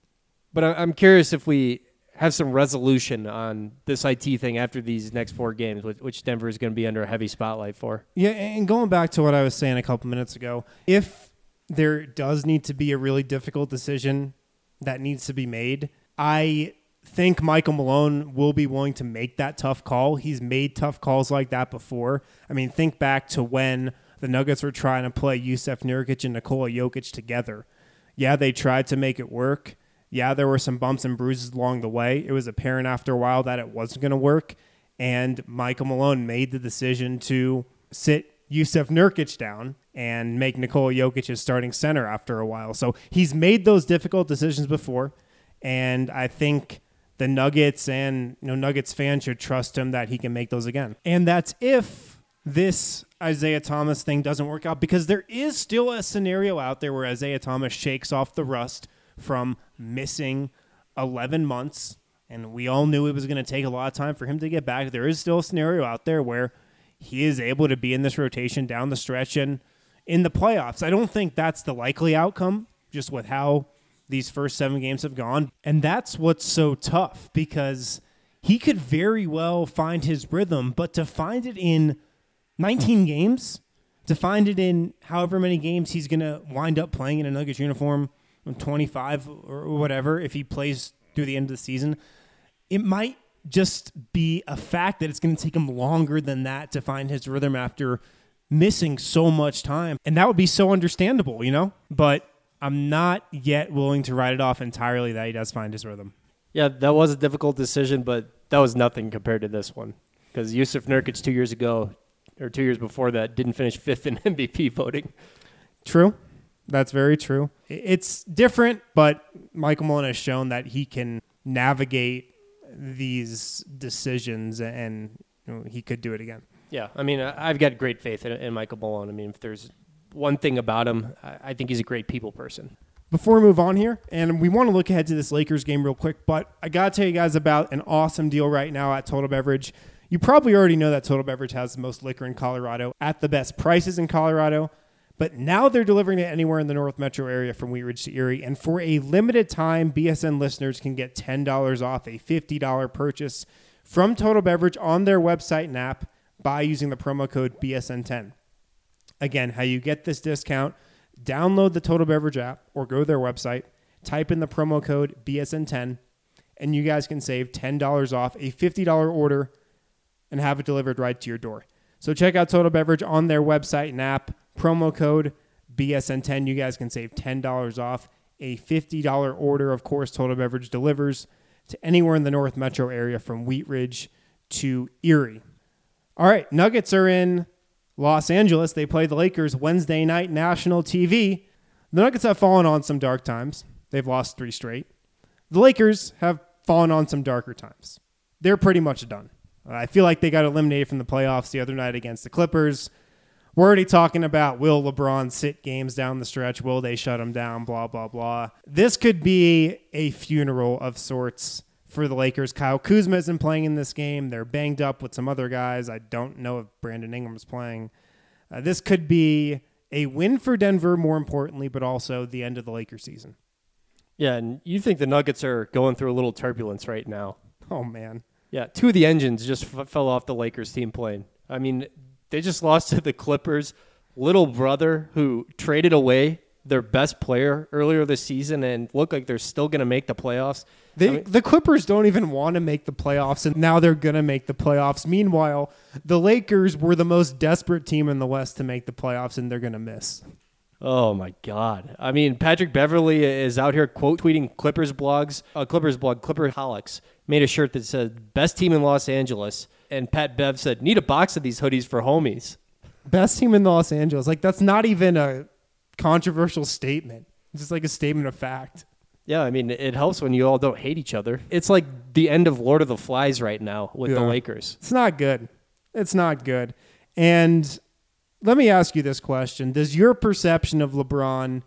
But I'm curious if we have some resolution on this I T thing after these next four games, which Denver is going to be under a heavy spotlight for. Yeah, and going back to what I was saying a couple minutes ago, if there does need to be a really difficult decision that needs to be made, I think Michael Malone will be willing to make that tough call. He's made tough calls like that before. I mean, think back to when the Nuggets were trying to play Jusuf Nurkic and Nikola Jokic together. Yeah, they tried to make it work. Yeah, there were some bumps and bruises along the way. It was apparent after a while that it wasn't going to work, and Michael Malone made the decision to sit Jusuf Nurkic down and make Nikola Jokic his starting center after a while. So he's made those difficult decisions before, and I think the Nuggets and you know Nuggets fans should trust him that he can make those again. And that's if this Isaiah Thomas thing doesn't work out, because there is still a scenario out there where Isaiah Thomas shakes off the rust from missing eleven months, and we all knew it was going to take a lot of time for him to get back. There is still a scenario out there where he is able to be in this rotation down the stretch and in the playoffs. I don't think that's the likely outcome, just with how these first seven games have gone. And that's what's so tough, because he could very well find his rhythm, but to find it in nineteen games, to find it in however many games he's going to wind up playing in a Nuggets uniform, twenty-five or whatever, if he plays through the end of the season, it might just be a fact that it's going to take him longer than that to find his rhythm after missing so much time. And that would be so understandable, you know? But I'm not yet willing to write it off entirely that he does find his rhythm. Yeah, that was a difficult decision, but that was nothing compared to this one. Because Yusuf Nurkic two years ago, or two years before that, didn't finish fifth in M V P voting. True. That's very true. It's different, but Michael Malone has shown that he can navigate these decisions, and you know, he could do it again. Yeah, I mean, I've got great faith in, in Michael Malone. I mean, if there's one thing about him, I think he's a great people person. Before we move on here, and we want to look ahead to this Lakers game real quick, but I got to tell you guys about an awesome deal right now at Total Beverage. You probably already know that Total Beverage has the most liquor in Colorado at the best prices in Colorado, but now they're delivering it anywhere in the North Metro area from Wheat Ridge to Erie, and for a limited time, B S N listeners can get ten dollars off a fifty dollars purchase from Total Beverage on their website and app by using the promo code B S N ten. Again, how you get this discount: download the Total Beverage app or go to their website, type in the promo code B S N ten, and you guys can save ten dollars off a fifty dollars order and have it delivered right to your door. So check out Total Beverage on their website and app, promo code B S N ten. You guys can save ten dollars off a fifty dollars order. Of course, Total Beverage delivers to anywhere in the North Metro area from Wheat Ridge to Erie. All right, Nuggets are in Los Angeles. They play the Lakers Wednesday night, national T V. The Nuggets have fallen on some dark times. They've lost three straight. The Lakers have fallen on some darker times. They're pretty much done. I feel like they got eliminated from the playoffs the other night against the Clippers. We're already talking about, will LeBron sit games down the stretch? Will they shut him down? Blah, blah, blah. This could be a funeral of sorts for the Lakers. Kyle Kuzma isn't playing in this game. They're banged up with some other guys. I don't know if Brandon Ingram's playing. Uh, this could be a win for Denver, more importantly, but also the end of the Lakers season. Yeah, and you think the Nuggets are going through a little turbulence right now. Oh, man. Yeah, two of the engines just f- fell off the Lakers team plane. I mean, they just lost to the Clippers' little brother, who traded away their best player earlier this season and look like they're still going to make the playoffs. They, I mean, the Clippers don't even want to make the playoffs, and now they're going to make the playoffs. Meanwhile, the Lakers were the most desperate team in the West to make the playoffs, and they're going to miss. Oh, my God. I mean, Patrick Beverley is out here quote tweeting Clippers blogs. Uh, Clippers blog, Clipperholics, made a shirt that said, best team in Los Angeles. And Pat Bev said, need a box of these hoodies for homies. Best team in Los Angeles. Like, that's not even a controversial statement. It's just like a statement of fact. Yeah, I mean, it helps when you all don't hate each other. It's like the end of Lord of the Flies right now with Yeah. the Lakers. It's not good. It's not good. And let me ask you this question. Does your perception of LeBron,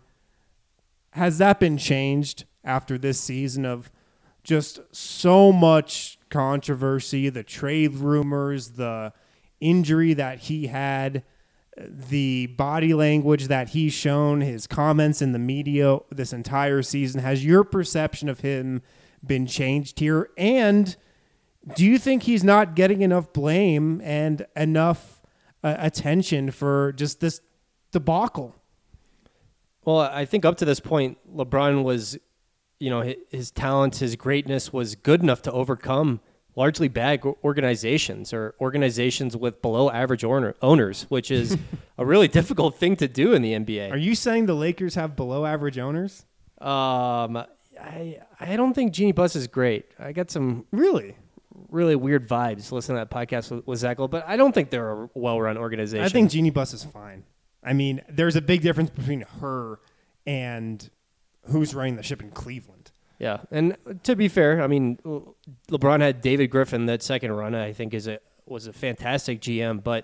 has that been changed after this season of just so much controversy, the trade rumors, the injury that he had, the body language that he's shown, his comments in the media this entire season? Has your perception of him been changed here? And do you think he's not getting enough blame and enough uh, attention for just this debacle? Well, I think up to this point, LeBron was, you know, his, his talent, his greatness was good enough to overcome largely bad organizations or organizations with below average owner, owners, which is a really difficult thing to do in the N B A. Are you saying the Lakers have below average owners? Um, I I don't think Jeannie Buss is great. I got some Really? really weird vibes listening to that podcast with, with Zach Lowe, but I don't think they're a well-run organization. I think Jeannie Buss is fine. I mean, there's a big difference between her and who's running the ship in Cleveland. Yeah, and to be fair, I mean, LeBron had David Griffin that second run. I think is a was a fantastic G M, but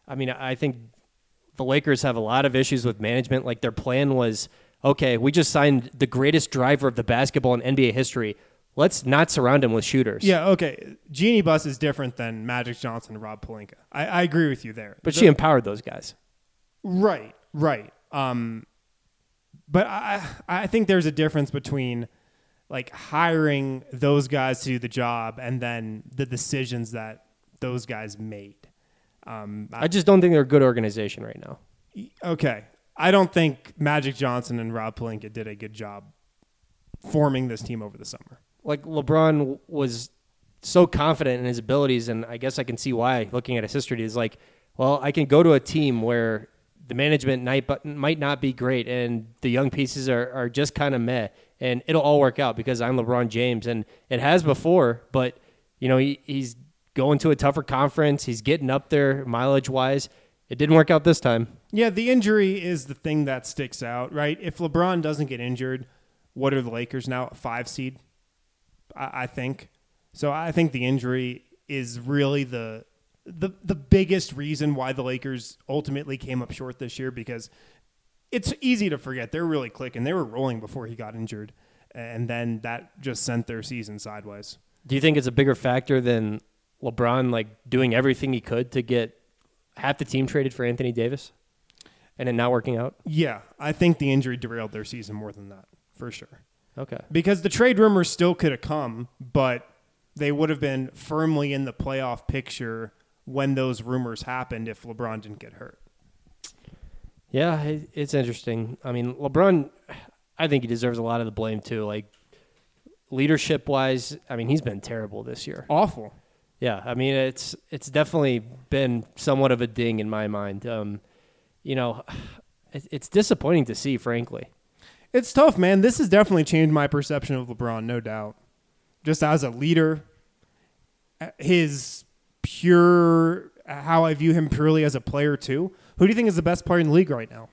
I mean, I think the Lakers have a lot of issues with management. Like their plan was, okay, we just signed the greatest driver of the basketball in N B A history. Let's not surround him with shooters. Yeah, okay. Jeannie Buss is different than Magic Johnson and Rob Pelinka. I, I agree with you there. But the, she empowered those guys. Right, right. Um, but I I think there's a difference between like hiring those guys to do the job and then the decisions that those guys made. Um, I, I just don't think they're a good organization right now. Okay. I don't think Magic Johnson and Rob Pelinka did a good job forming this team over the summer. Like LeBron was so confident in his abilities, and I guess I can see why, looking at his history, is like, well, I can go to a team where the management might, might not be great and the young pieces are, are just kind of meh, and it'll all work out because I'm LeBron James. And it has before, but you know he, he's going to a tougher conference. He's getting up there mileage-wise. It didn't work out this time. Yeah, the injury is the thing that sticks out, right? If LeBron doesn't get injured, what are the Lakers now? A five seed, I, I think. So I think the injury is really the the the biggest reason why the Lakers ultimately came up short this year, because it's easy to forget they're really clicking. They were rolling before he got injured, and then that just sent their season sideways. Do you think it's a bigger factor than LeBron like doing everything he could to get half the team traded for Anthony Davis and it not working out? Yeah, I think the injury derailed their season more than that, for sure. Okay. Because the trade rumors still could have come, but they would have been firmly in the playoff picture when those rumors happened if LeBron didn't get hurt. Yeah, it, it's interesting. I mean, LeBron, I think he deserves a lot of the blame too. Like leadership-wise, I mean, he's been terrible this year. Awful. Yeah, I mean, it's it's definitely been somewhat of a ding in my mind. Um, you know, it, it's disappointing to see, frankly. It's tough, man. This has definitely changed my perception of LeBron, no doubt. Just as a leader, his pure, how I view him purely as a player too. Who do you think is the best player in the league right now?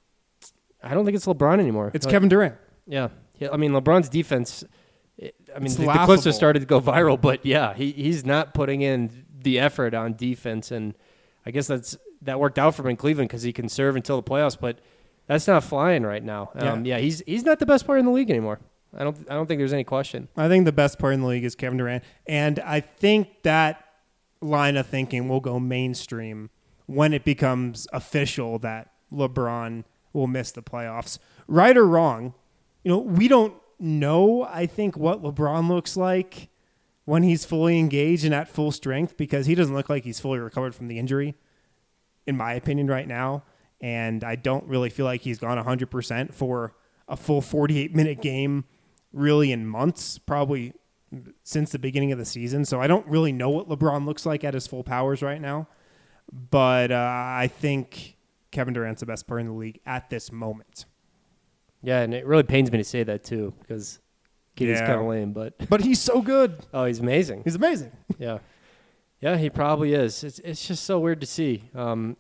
I don't think it's LeBron anymore. It's like, Kevin Durant. Yeah. yeah. I mean, LeBron's defense, it, I mean, It's the, the laughable. clips have started to go viral, but yeah, he he's not putting in the effort on defense. And I guess that's that worked out for him in Cleveland because he can serve until the playoffs, but that's not flying right now. Um, yeah. yeah, he's he's not the best player in the league anymore. I don't I don't think there's any question. I think the best player in the league is Kevin Durant. And I think that line of thinking will go mainstream when it becomes official that LeBron will miss the playoffs. Right or wrong, you know, we don't know, I think, what LeBron looks like when he's fully engaged and at full strength, because he doesn't look like he's fully recovered from the injury, in my opinion, right now. And I don't really feel like he's gone one hundred percent for a full forty-eight minute game really in months, probably since the beginning of the season. So I don't really know what LeBron looks like at his full powers right now. But uh, I think Kevin Durant's the best player in the league at this moment. Yeah, and it really pains me to say that too, because Kitty's Yeah. kind of lame, but But he's so good. oh, he's amazing. He's amazing. Yeah, yeah, he probably is. It's it's just so weird to see. Um,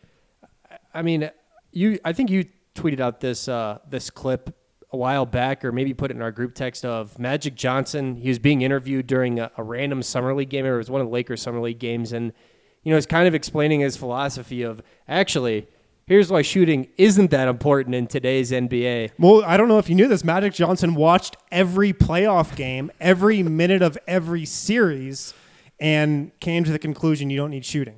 I mean, you. I think you tweeted out this uh, this clip a while back, or maybe put it in our group text of Magic Johnson. He was being interviewed during a, a random summer league game, or it was one of the Lakers summer league games, and you know, he's kind of explaining his philosophy of actually, here's why shooting isn't that important in today's N B A. Well, I don't know if you knew this. Magic Johnson watched every playoff game, every minute of every series, and came to the conclusion you don't need shooting.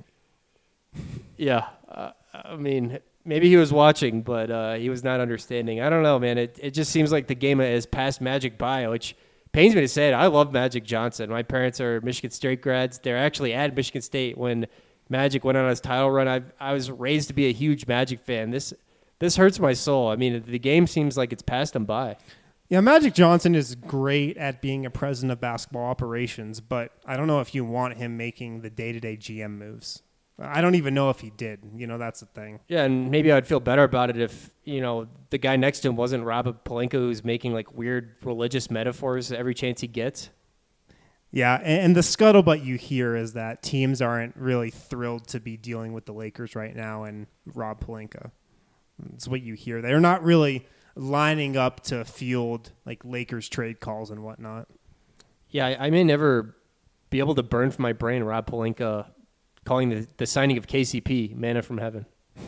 Yeah, uh, I mean, maybe he was watching, but uh, he was not understanding. I don't know, man. It it just seems like the game has passed Magic by, which pains me to say it. I love Magic Johnson. My parents are Michigan State grads. They're actually at Michigan State when Magic went on his title run. I I was raised to be a huge Magic fan. This this hurts my soul. I mean, the game seems like it's passed him by. Yeah, Magic Johnson is great at being a president of basketball operations, but I don't know if you want him making the day-to-day G M moves. I don't even know if he did. You know, that's the thing. Yeah, and maybe I'd feel better about it if, you know, the guy next to him wasn't Rob Pelinka, who's making, like, weird religious metaphors every chance he gets. Yeah, and, and the scuttlebutt you hear is that teams aren't really thrilled to be dealing with the Lakers right now and Rob Pelinka. That's what you hear. They're not really lining up to field, like, Lakers trade calls and whatnot. Yeah, I, I may never be able to burn from my brain Rob Pelinka calling the, the signing of K C P manna from heaven.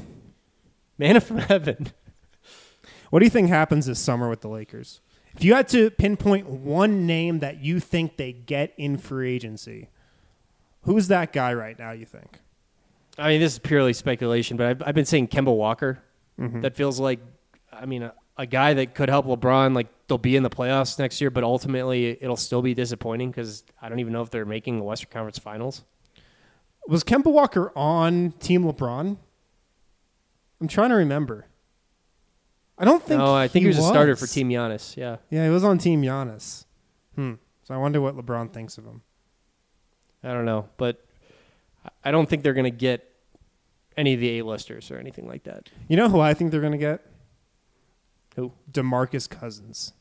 Manna from heaven. What do you think happens this summer with the Lakers? If you had to pinpoint one name that you think they get in free agency, who's that guy right now, you think? I mean, this is purely speculation, but I've, I've been saying Kemba Walker. Mm-hmm. That feels like, I mean, a, a guy that could help LeBron. Like, they'll be in the playoffs next year, but ultimately it'll still be disappointing because I don't even know if they're making the Western Conference Finals. Was Kemba Walker on Team LeBron? I'm trying to remember. I don't think No, I think he, he was, was a starter for Team Giannis, yeah. Yeah, he was on Team Giannis. Hmm. So I wonder what LeBron thinks of him. I don't know, but I don't think they're going to get any of the A-listers or anything like that. You know who I think they're going to get? Who? DeMarcus Cousins.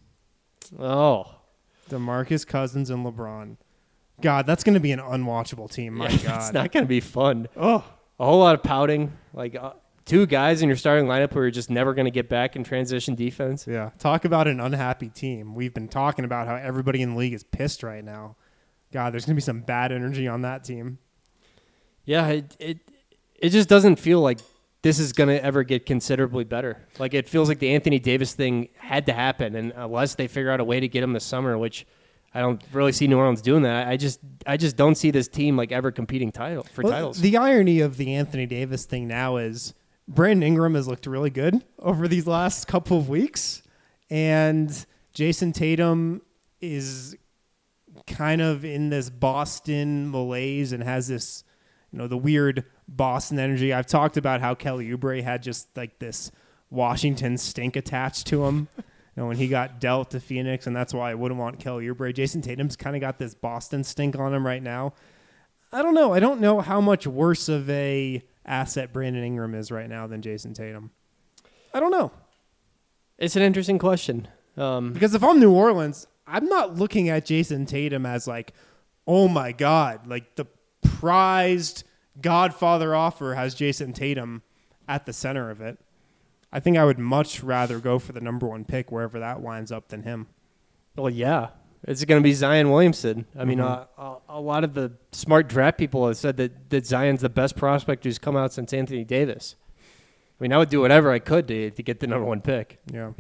Oh. DeMarcus Cousins and LeBron. God, that's going to be an unwatchable team. My Yeah, God. It's not going to be fun. Oh. A whole lot of pouting. Like, uh, two guys in your starting lineup who are just never going to get back in transition defense. Yeah. Talk about an unhappy team. We've been talking about how everybody in the league is pissed right now. God, there's going to be some bad energy on that team. Yeah, it, it it just doesn't feel like this is going to ever get considerably better. Like, it feels like the Anthony Davis thing had to happen, and unless they figure out a way to get him this summer, which I don't really see New Orleans doing that, I just I just don't see this team like ever competing title for Well, titles. The irony of the Anthony Davis thing now is Brandon Ingram has looked really good over these last couple of weeks, and Jason Tatum is kind of in this Boston malaise and has this, you know, the weird Boston energy. I've talked about how Kelly Oubre had just like this Washington stink attached to him, you know, when he got dealt to Phoenix, and that's why I wouldn't want Kelly Oubre. Jason Tatum's kind of got this Boston stink on him right now. I don't know. I don't know how much worse of a asset Brandon Ingram is right now than Jason Tatum. I don't know. It's an interesting question. Um, Because if I'm New Orleans, I'm not looking at Jason Tatum as like, oh my God, like the prized Godfather offer has Jason Tatum at the center of it. I think I would much rather go for the number one pick wherever that winds up than him. well, yeah. It's going to be Zion Williamson. I mean, Mm-hmm. uh, a, a lot of the smart draft people have said that, that Zion's the best prospect who's come out since Anthony Davis. I mean, I would do whatever I could to, to get the number one pick. Yeah.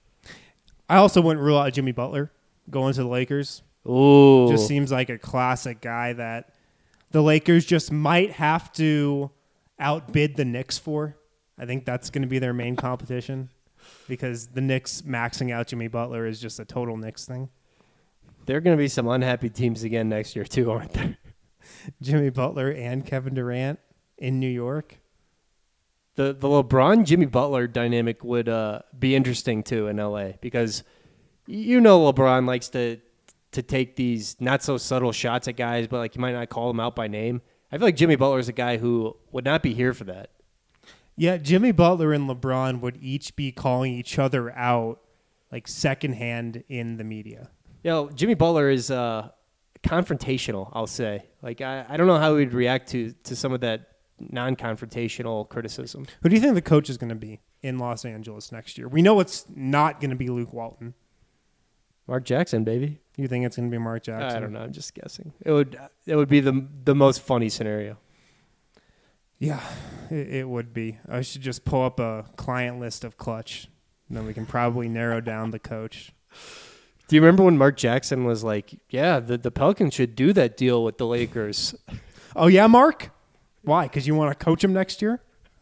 I also wouldn't rule out Jimmy Butler going to the Lakers. Ooh. Just seems like a classic guy that the Lakers just might have to outbid the Knicks for. I think that's going to be their main competition because the Knicks maxing out Jimmy Butler is just a total Knicks thing. There are going to be some unhappy teams again next year, too, aren't there? Jimmy Butler and Kevin Durant in New York. The the LeBron Jimmy Butler dynamic would uh, be interesting too in L A because you know LeBron likes to to take these not so subtle shots at guys, but like you might not call them out by name. I feel like Jimmy Butler is a guy who would not be here for that. Yeah, Jimmy Butler and LeBron would each be calling each other out like secondhand in the media. You know, Jimmy Butler is uh, confrontational, I'll say. Like I, I don't know how he'd react to to some of that non-confrontational criticism. Who do you think the coach is going to be in Los Angeles next year? We know it's not going to be Luke Walton. Mark Jackson, baby. You think it's going to be Mark Jackson? I don't know. I'm just guessing. It would it would be the the most funny scenario. Yeah, it, it would be. I should just pull up a client list of Clutch, and then we can probably narrow down the coach. Do you remember when Mark Jackson was like, yeah, the, the Pelicans should do that deal with the Lakers? Oh, yeah, Mark? Why? Because you want to coach him next year?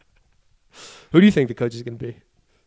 Who do you think the coach is going to be?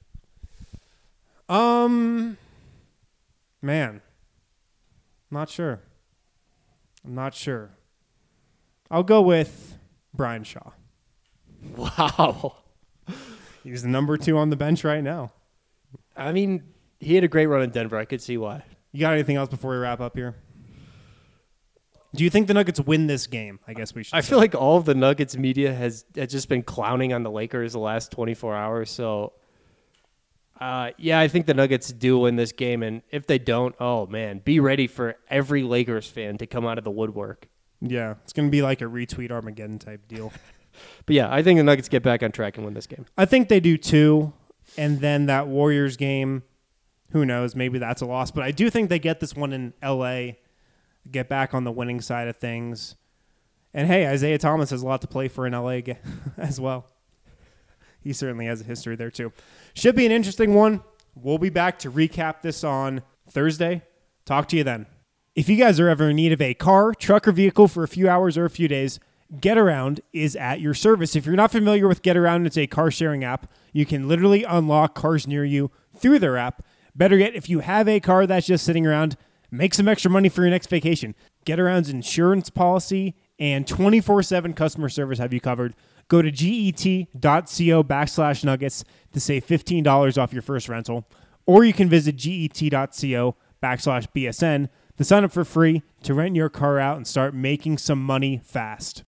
Um, man, not sure. I'm not sure. I'll go with Brian Shaw. Wow. He's the number two on the bench right now. I mean, he had a great run in Denver. I could see why. You got anything else before we wrap up here? Do you think the Nuggets win this game? I guess we should I say. feel like all of the Nuggets media has, has just been clowning on the Lakers the last twenty-four hours. So, uh, yeah, I think the Nuggets do win this game. And if they don't, oh, man, be ready for every Lakers fan to come out of the woodwork. Yeah, it's going to be like a retweet Armageddon type deal. But, yeah, I think the Nuggets get back on track and win this game. I think they do too. And then that Warriors game, who knows? Maybe that's a loss. But I do think they get this one in L A, get back on the winning side of things. And hey, Isaiah Thomas has a lot to play for in L A as well. He certainly has a history there too. Should be an interesting one. We'll be back to recap this on Thursday. Talk to you then. If you guys are ever in need of a car, truck, or vehicle for a few hours or a few days, GetAround is at your service. If you're not familiar with GetAround, it's a car sharing app. You can literally unlock cars near you through their app. Better yet, if you have a car that's just sitting around, make some extra money for your next vacation. GetAround's insurance policy and twenty-four seven customer service have you covered. Go to get.co backslash nuggets to save fifteen dollars off your first rental. Or you can visit get.co backslash BSN to sign up for free to rent your car out and start making some money fast.